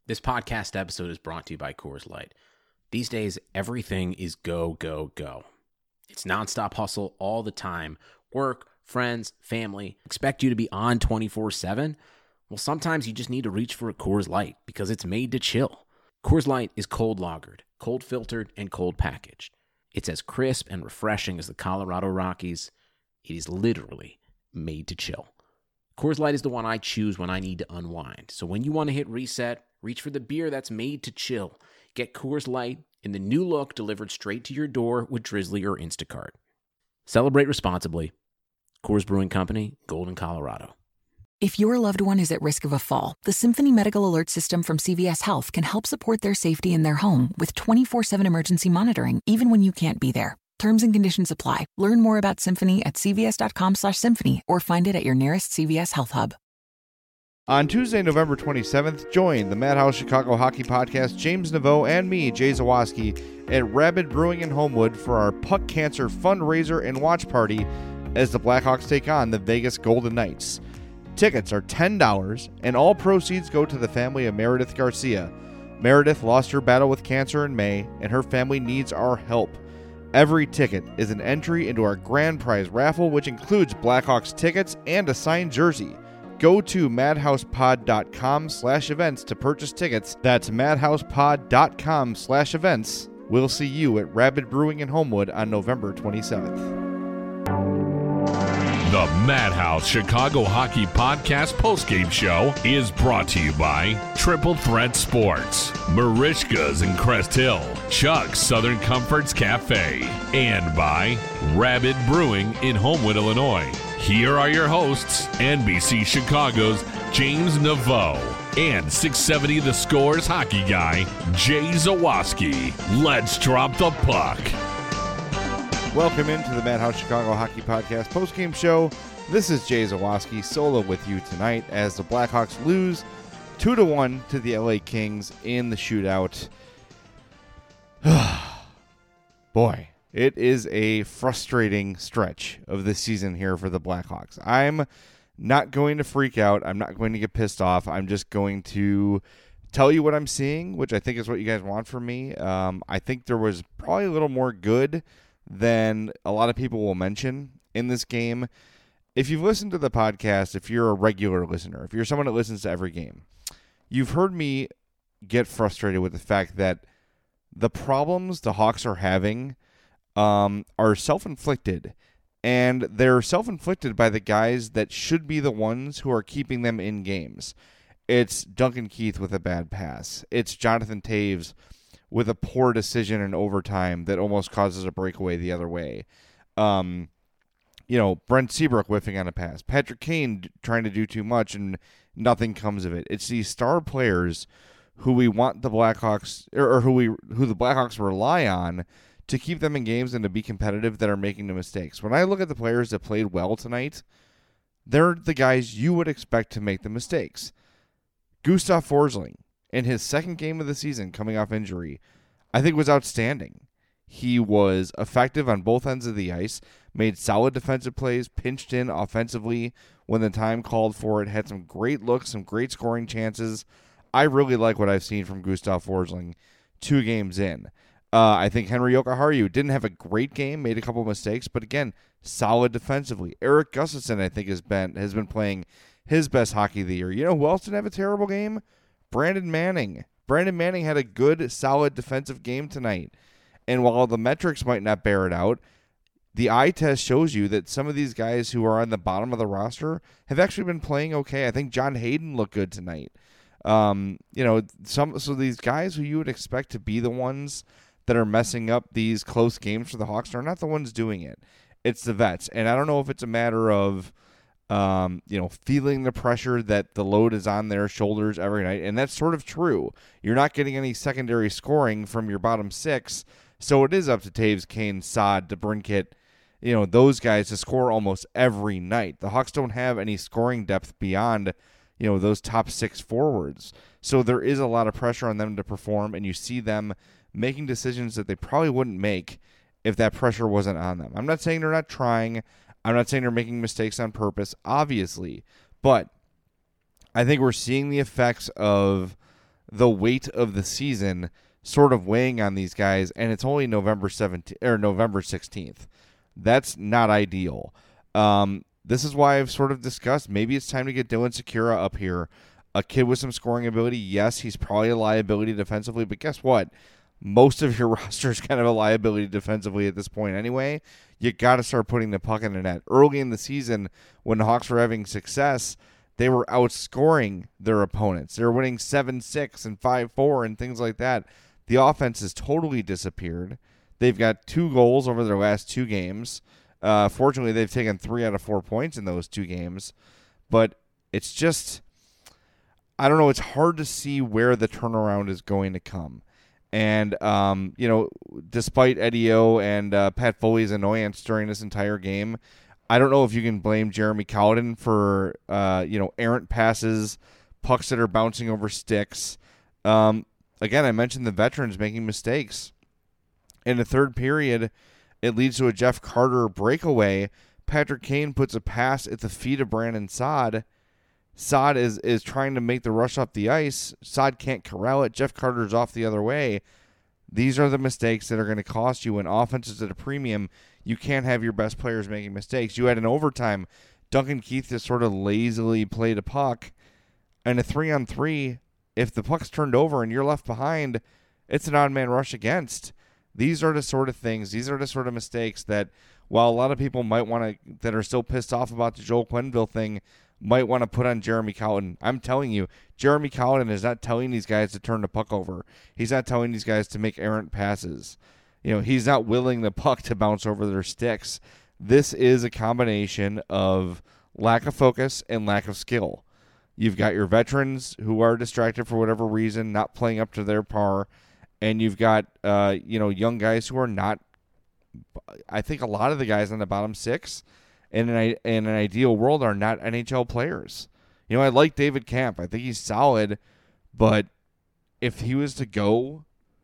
This podcast episode is brought to you by Coors Light. These days, everything is go, go, go. It's nonstop hustle all the time. Work, friends, family, expect you to be on 24/7. Well, sometimes you just need to reach for a Coors Light because it's made to chill. Coors Light is cold lagered, cold filtered, and cold packaged. It's as crisp and refreshing as the Colorado Rockies. It is literally made to chill. Coors Light is the one I choose when I need to unwind. So when you want to hit reset, reach for the beer that's made to chill. Get Coors Light in the new look delivered straight to your door with Drizzly or Instacart. Celebrate responsibly. Coors Brewing Company, Golden, Colorado. If your loved one is at risk of a fall, the Symphony Medical Alert System from CVS Health can help support their safety in their home with 24/7 emergency monitoring, even when you can't be there. Terms and conditions apply. Learn more about Symphony at cvs.com/symphony or find it at your nearest CVS Health Hub. On Tuesday, November 27th, join the Madhouse Chicago Hockey Podcast, James Naveau, and me, Jay Zawoski, at Rabid Brewing in Homewood for our Puck Cancer fundraiser and watch party as the Blackhawks take on the Vegas Golden Knights. Tickets are $10, and all proceeds go to the family of Meredith Garcia. Meredith lost her battle with cancer in May, and her family needs our help. Every ticket is an entry into our grand prize raffle, which includes Blackhawks tickets and a signed jersey. Go to madhousepod.com/events to purchase tickets. That's madhousepod.com/events. We'll see you at Rabid Brewing in Homewood on November 27th. The Madhouse Chicago Hockey Podcast postgame show is brought to you by Triple Threat Sports, Marishka's in Crest Hill, Chuck's Southern Comforts Cafe, and by Rabid Brewing in Homewood, Illinois. Here are your hosts, NBC Chicago's James Naveau and 670 The Score's hockey guy, Jay Zawoski. Let's drop the puck. Welcome into the Madhouse Chicago Hockey Podcast postgame show. This is Jay Zawoski solo with you tonight as the Blackhawks lose 2-1 to the LA Kings in the shootout. Boy, it is a frustrating stretch of this season here for the Blackhawks. I'm not going to freak out. I'm not going to get pissed off. I'm just going to tell you what I'm seeing, which I think is what you guys want from me. I think there was probably a little more good than a lot of people will mention in this game. If you've listened to the podcast, if you're a regular listener, if you're someone that listens to every game, you've heard me get frustrated with the fact that the problems the Hawks are having are self-inflicted, and they're self-inflicted by the guys that should be the ones who are keeping them in games. It's Duncan Keith with a bad pass. It's Jonathan Toews with a poor decision in overtime that almost causes a breakaway the other way. Brent Seabrook whiffing on a pass. Patrick Kane trying to do too much and nothing comes of it. It's these star players who we want the Blackhawks, or who the Blackhawks rely on to keep them in games and to be competitive, that are making the mistakes. When I look at the players that played well tonight, they're the guys you would expect to make the mistakes. Gustav Forsling, in his second game of the season, coming off injury, I think was outstanding. He was effective on both ends of the ice, made solid defensive plays, pinched in offensively when the time called for it, had some great looks, some great scoring chances. I really like what I've seen from Gustav Forsling 2 games in. I think Henri Jokiharju didn't have a great game, made a couple mistakes, but again, solid defensively. Erik Gustafsson, I think, has been playing his best hockey of the year. You know who else didn't have a terrible game? Brandon Manning. Brandon Manning had a good, solid defensive game tonight. And while the metrics might not bear it out, the eye test shows you that some of these guys who are on the bottom of the roster have actually been playing okay. I think John Hayden looked good tonight. So these guys who you would expect to be the ones that are messing up these close games for the Hawks are not the ones doing it. It's the vets. And I don't know if it's a matter of feeling the pressure that the load is on their shoulders every night. And that's sort of true. You're not getting any secondary scoring from your bottom 6. So it is up to Toews, Kane, Saad, DeBrincat, those guys to score almost every night. The Hawks don't have any scoring depth beyond, those top 6 forwards. So there is a lot of pressure on them to perform, and you see them making decisions that they probably wouldn't make if that pressure wasn't on them. I'm not saying they're not trying. I'm not saying they're making mistakes on purpose, obviously. But I think we're seeing the effects of the weight of the season sort of weighing on these guys, and it's only November 17th or November 16th. That's not ideal. This is why I've sort of discussed maybe it's time to get Dylan Sikura up here. A kid with some scoring ability. Yes, he's probably a liability defensively, but guess what? Most of your roster is kind of a liability defensively at this point anyway. You got to start putting the puck in the net. Early in the season, when the Hawks were having success, they were outscoring their opponents. They were winning 7-6 and 5-4 and things like that. The offense has totally disappeared. They've got 2 goals over their last 2 games. Fortunately, they've taken 3 out of 4 points in those 2 games. But it's just, I don't know, it's hard to see where the turnaround is going to come. And, despite Eddie O and Pat Foley's annoyance during this entire game, I don't know if you can blame Jeremy Colliton for, errant passes, pucks that are bouncing over sticks. Again, I mentioned the veterans making mistakes. In the third period, it leads to a Jeff Carter breakaway. Patrick Kane puts a pass at the feet of Brandon Saad. Saad is trying to make the rush up the ice. Saad can't corral it. Jeff Carter's off the other way. These are the mistakes that are going to cost you. When offense is at a premium, you can't have your best players making mistakes. You had an overtime. Duncan Keith just sort of lazily played a puck. And a 3-on-3, if the puck's turned over and you're left behind, it's an odd man rush against. These are the sort of things, these are the sort of mistakes that, while a lot of people might want to, that are still pissed off about the Joel Quenneville thing, might want to put on Jeremy Colliton. I'm telling you, Jeremy Colliton is not telling these guys to turn the puck over. He's not telling these guys to make errant passes. He's not willing the puck to bounce over their sticks. This is a combination of lack of focus and lack of skill. You've got your veterans who are distracted for whatever reason, not playing up to their par, and you've got young guys who are not. I think a lot of the guys on the bottom 6 in an ideal world are not NHL players. I like David Kampf. I think he's solid, but if he was to go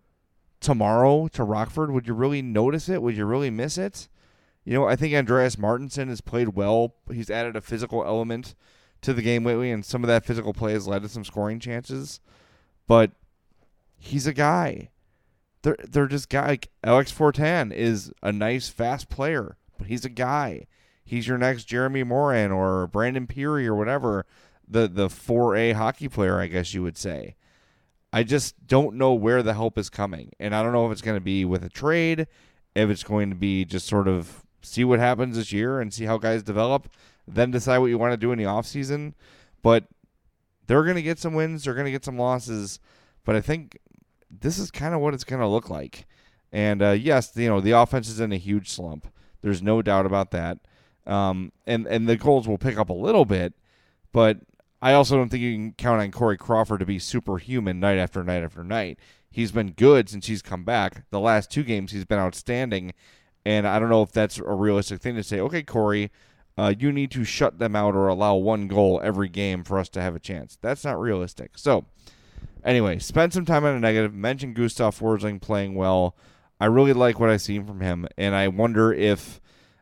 tomorrow to Rockford, would you really notice it? Would you really miss it? I think Andreas Martinson has played well. He's added a physical element to the game lately, and some of that physical play has led to some scoring chances. But he's a guy. They're just guy. Like Alex Fortin is a nice, fast player, but he's a guy. He's your next Jeremy Morin or Brandon Peary or whatever, the 4A hockey player, I guess you would say. I just don't know where the help is coming. And I don't know if it's going to be with a trade, if it's going to be just sort of see what happens this year and see how guys develop, then decide what you want to do in the offseason. But they're going to get some wins. They're going to get some losses. But I think this is kind of what it's going to look like. And, yes, the offense is in a huge slump. There's no doubt about that. And the goals will pick up a little bit, but I also don't think you can count on Corey Crawford to be superhuman night after night after night. He's been good since he's come back. The last 2 games he's been outstanding, and I don't know if that's a realistic thing to say, okay, Corey, you need to shut them out or allow 1 goal every game for us to have a chance. That's not realistic. So, anyway, spend some time on a negative. Mention Gustav Forsling playing well. I really like what I've seen from him, and I wonder if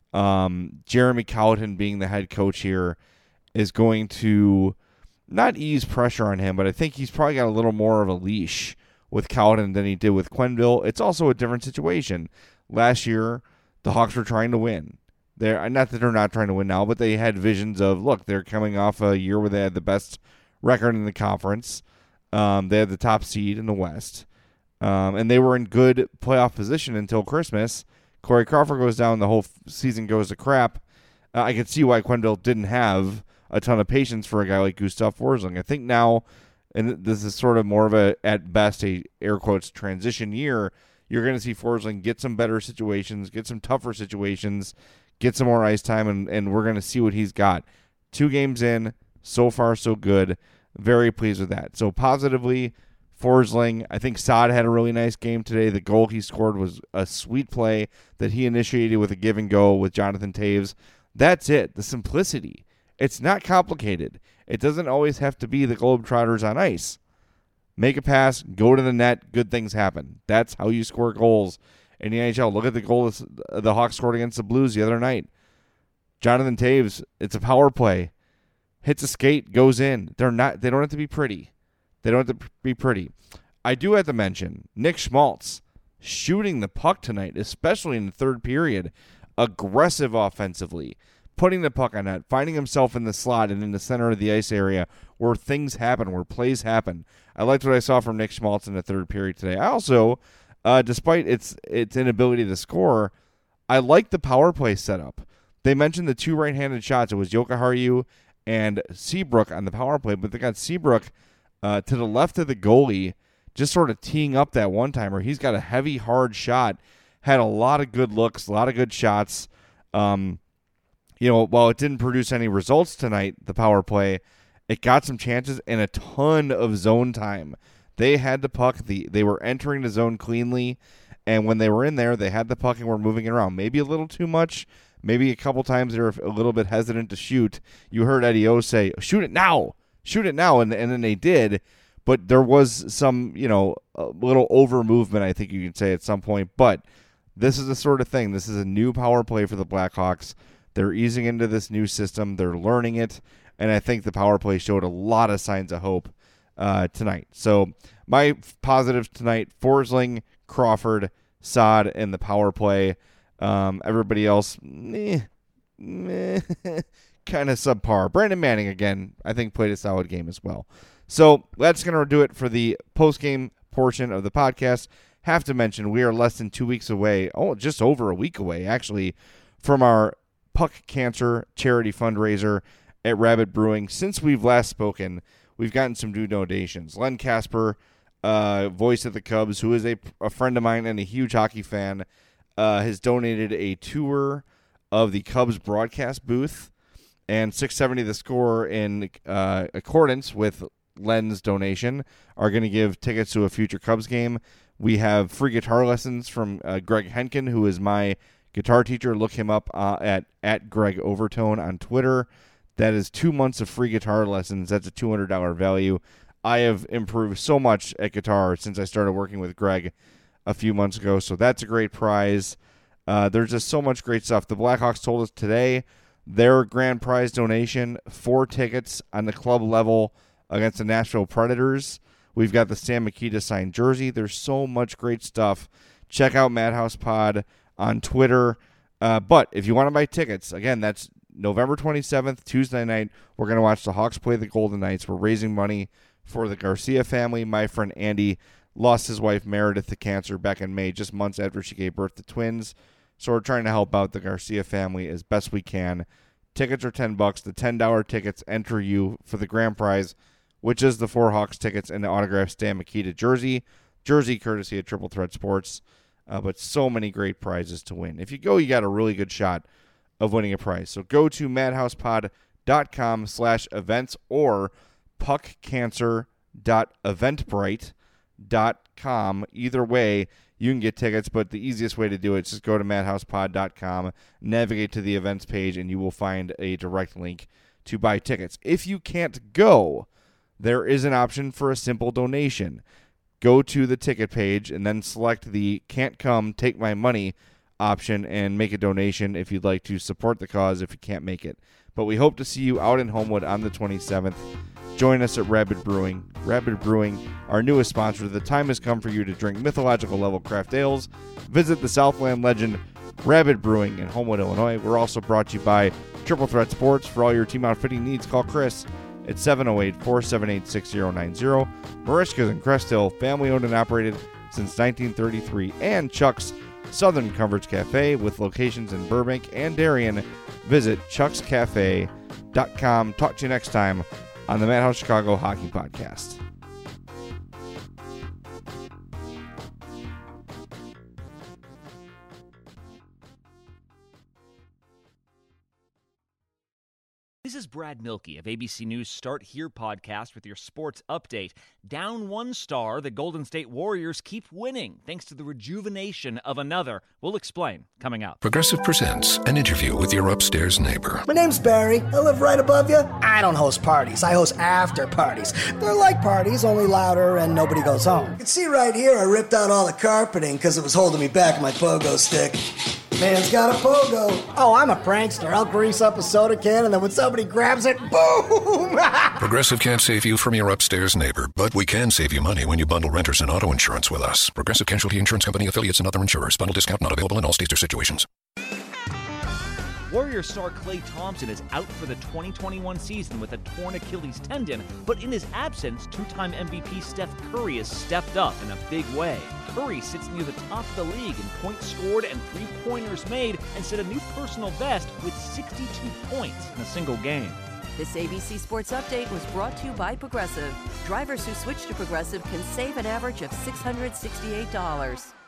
Jeremy Colliton being the head coach here is going to not ease pressure on him, but I think he's probably got a little more of a leash with Colliton than he did with Quenneville. It's also a different situation. Last year, the Hawks were trying to win. Not that they're not trying to win now, but they had visions of, look, they're coming off a year where they had the best record in the conference. They had the top seed in the West. And they were in good playoff position until Christmas. Corey Crawford goes down, the whole season goes to crap. I can see why Quenneville didn't have a ton of patience for a guy like Gustav Forsling. I think now, and this is sort of more of a, at best, a air quotes transition year, you're going to see Forsling get some better situations, get some tougher situations, get some more ice time, and we're going to see what he's got. 2 games in, so far so good. Very pleased with that. So positively, Forsling, I think Saad had a really nice game today. The goal he scored was a sweet play that he initiated with a give and go with Jonathan Taves. That's it. The simplicity. It's not complicated. It doesn't always have to be the Globetrotters on ice. Make a pass, go to the net, good things happen. That's how you score goals in the NHL. Look at the goal the Hawks scored against the Blues the other night. Jonathan Taves, it's a power play. Hits a skate, goes in. They don't have to be pretty. They don't have to be pretty. I do have to mention Nick Schmaltz shooting the puck tonight, especially in the third period, aggressive offensively, putting the puck on net, finding himself in the slot and in the center of the ice area where things happen, where plays happen. I liked what I saw from Nick Schmaltz in the third period today. I also, despite its inability to score, I like the power play setup. They mentioned the two right-handed shots. It was Jokiharju and Seabrook on the power play, but they got Seabrook to the left of the goalie, just sort of teeing up that one-timer. He's got a heavy, hard shot, had a lot of good looks, a lot of good shots. While it didn't produce any results tonight, the power play, it got some chances and a ton of zone time. They had the puck. They were entering the zone cleanly, and when they were in there, they had the puck and were moving it around. Maybe a little too much. Maybe a couple times they were a little bit hesitant to shoot. You heard Eddie O say, shoot it now, and then they did. But there was some, a little over movement, I think you could say at some point. But this is the sort of thing. This is a new power play for the Blackhawks. They're easing into this new system. They're learning it. And I think the power play showed a lot of signs of hope tonight. So my positives tonight, Forsling, Crawford, Saad, and the power play. Everybody else, kind of subpar. Brandon Manning, again, I think played a solid game as well. So that's going to do it for the post-game portion of the podcast. Have to mention, we are less than 2 weeks away, just over a week away, actually, from our Puck Cancer charity fundraiser at Rabbit Brewing. Since we've last spoken, we've gotten some new donations. Len Casper, voice of the Cubs, who is a friend of mine and a huge hockey fan, has donated a tour of the Cubs broadcast booth, and 670 The Score, in accordance with Len's donation, are going to give tickets to a future Cubs game. We have free guitar lessons from Greg Henkin, who is my guitar teacher. Look him up at Greg Overtone on Twitter. That is 2 months of free guitar lessons. That's a $200 value. I have improved so much at guitar since I started working with Greg a few months ago, so that's a great prize. There's just so much great stuff. The Blackhawks told us today their grand prize donation, 4 tickets on the club level against the Nashville Predators. We've got the Sam Mikita signed jersey. There's so much great stuff. Check out Madhouse Pod on Twitter. But if you want to buy tickets, again, that's November 27th, Tuesday night. We're going to watch the Hawks play the Golden Knights. We're raising money for the Garcia family. My friend Andy lost his wife Meredith to cancer back in May, just months after she gave birth to twins. So we're trying to help out the Garcia family as best we can. Tickets are $10. The $10 tickets enter you for the grand prize, which is the 4 Hawks tickets and the autographed Stan Mikita jersey. Jersey courtesy of Triple Threat Sports. But so many great prizes to win. If you go, you got a really good shot of winning a prize. So go to madhousepod.com/events or puckcancer.eventbrite.com. Either way, you can get tickets, but the easiest way to do it is just go to madhousepod.com, navigate to the events page, and you will find a direct link to buy tickets. If you can't go, there is an option for a simple donation. Go to the ticket page and then select the Can't Come, Take My Money option and make a donation if you'd like to support the cause if you can't make it. But we hope to see you out in Homewood on the 27th. Join us at Rabbit Brewing. Rabbit Brewing, our newest sponsor. The time has come for you to drink mythological level craft ales. Visit the Southland legend Rabbit Brewing in Homewood, Illinois. We're also brought to you by Triple Threat Sports. For all your team outfitting needs, call Chris at 708-478-6090. Marishka's in Crest Hill, family owned and operated since 1933. And Chuck's Southern Comforts Cafe with locations in Burbank and Darien. Visit chuckscafe.com. Talk to you next time on the Madhouse Chicago Hockey Podcast. This is Brad Milkey of ABC News Start Here podcast with your sports update. Down 1 star, the Golden State Warriors keep winning thanks to the rejuvenation of another. We'll explain coming up. Progressive presents an interview with your upstairs neighbor. My name's Barry. I live right above you. I don't host parties. I host after parties. They're like parties, only louder and nobody goes home. You can see right here I ripped out all the carpeting because it was holding me back in my pogo stick. Man's got a pogo. Oh, I'm a prankster. I'll grease up a soda can, and then when somebody grabs it, boom! Progressive can't save you from your upstairs neighbor, but we can save you money when you bundle renters and auto insurance with us. Progressive Casualty Insurance Company, affiliates, and other insurers. Bundle discount not available in all states or situations. Warrior star Klay Thompson is out for the 2021 season with a torn Achilles tendon, but in his absence, two-time MVP Steph Curry has stepped up in a big way. Curry sits near the top of the league in points scored and three-pointers made and set a new personal best with 62 points in a single game. This ABC Sports Update was brought to you by Progressive. Drivers who switch to Progressive can save an average of $668.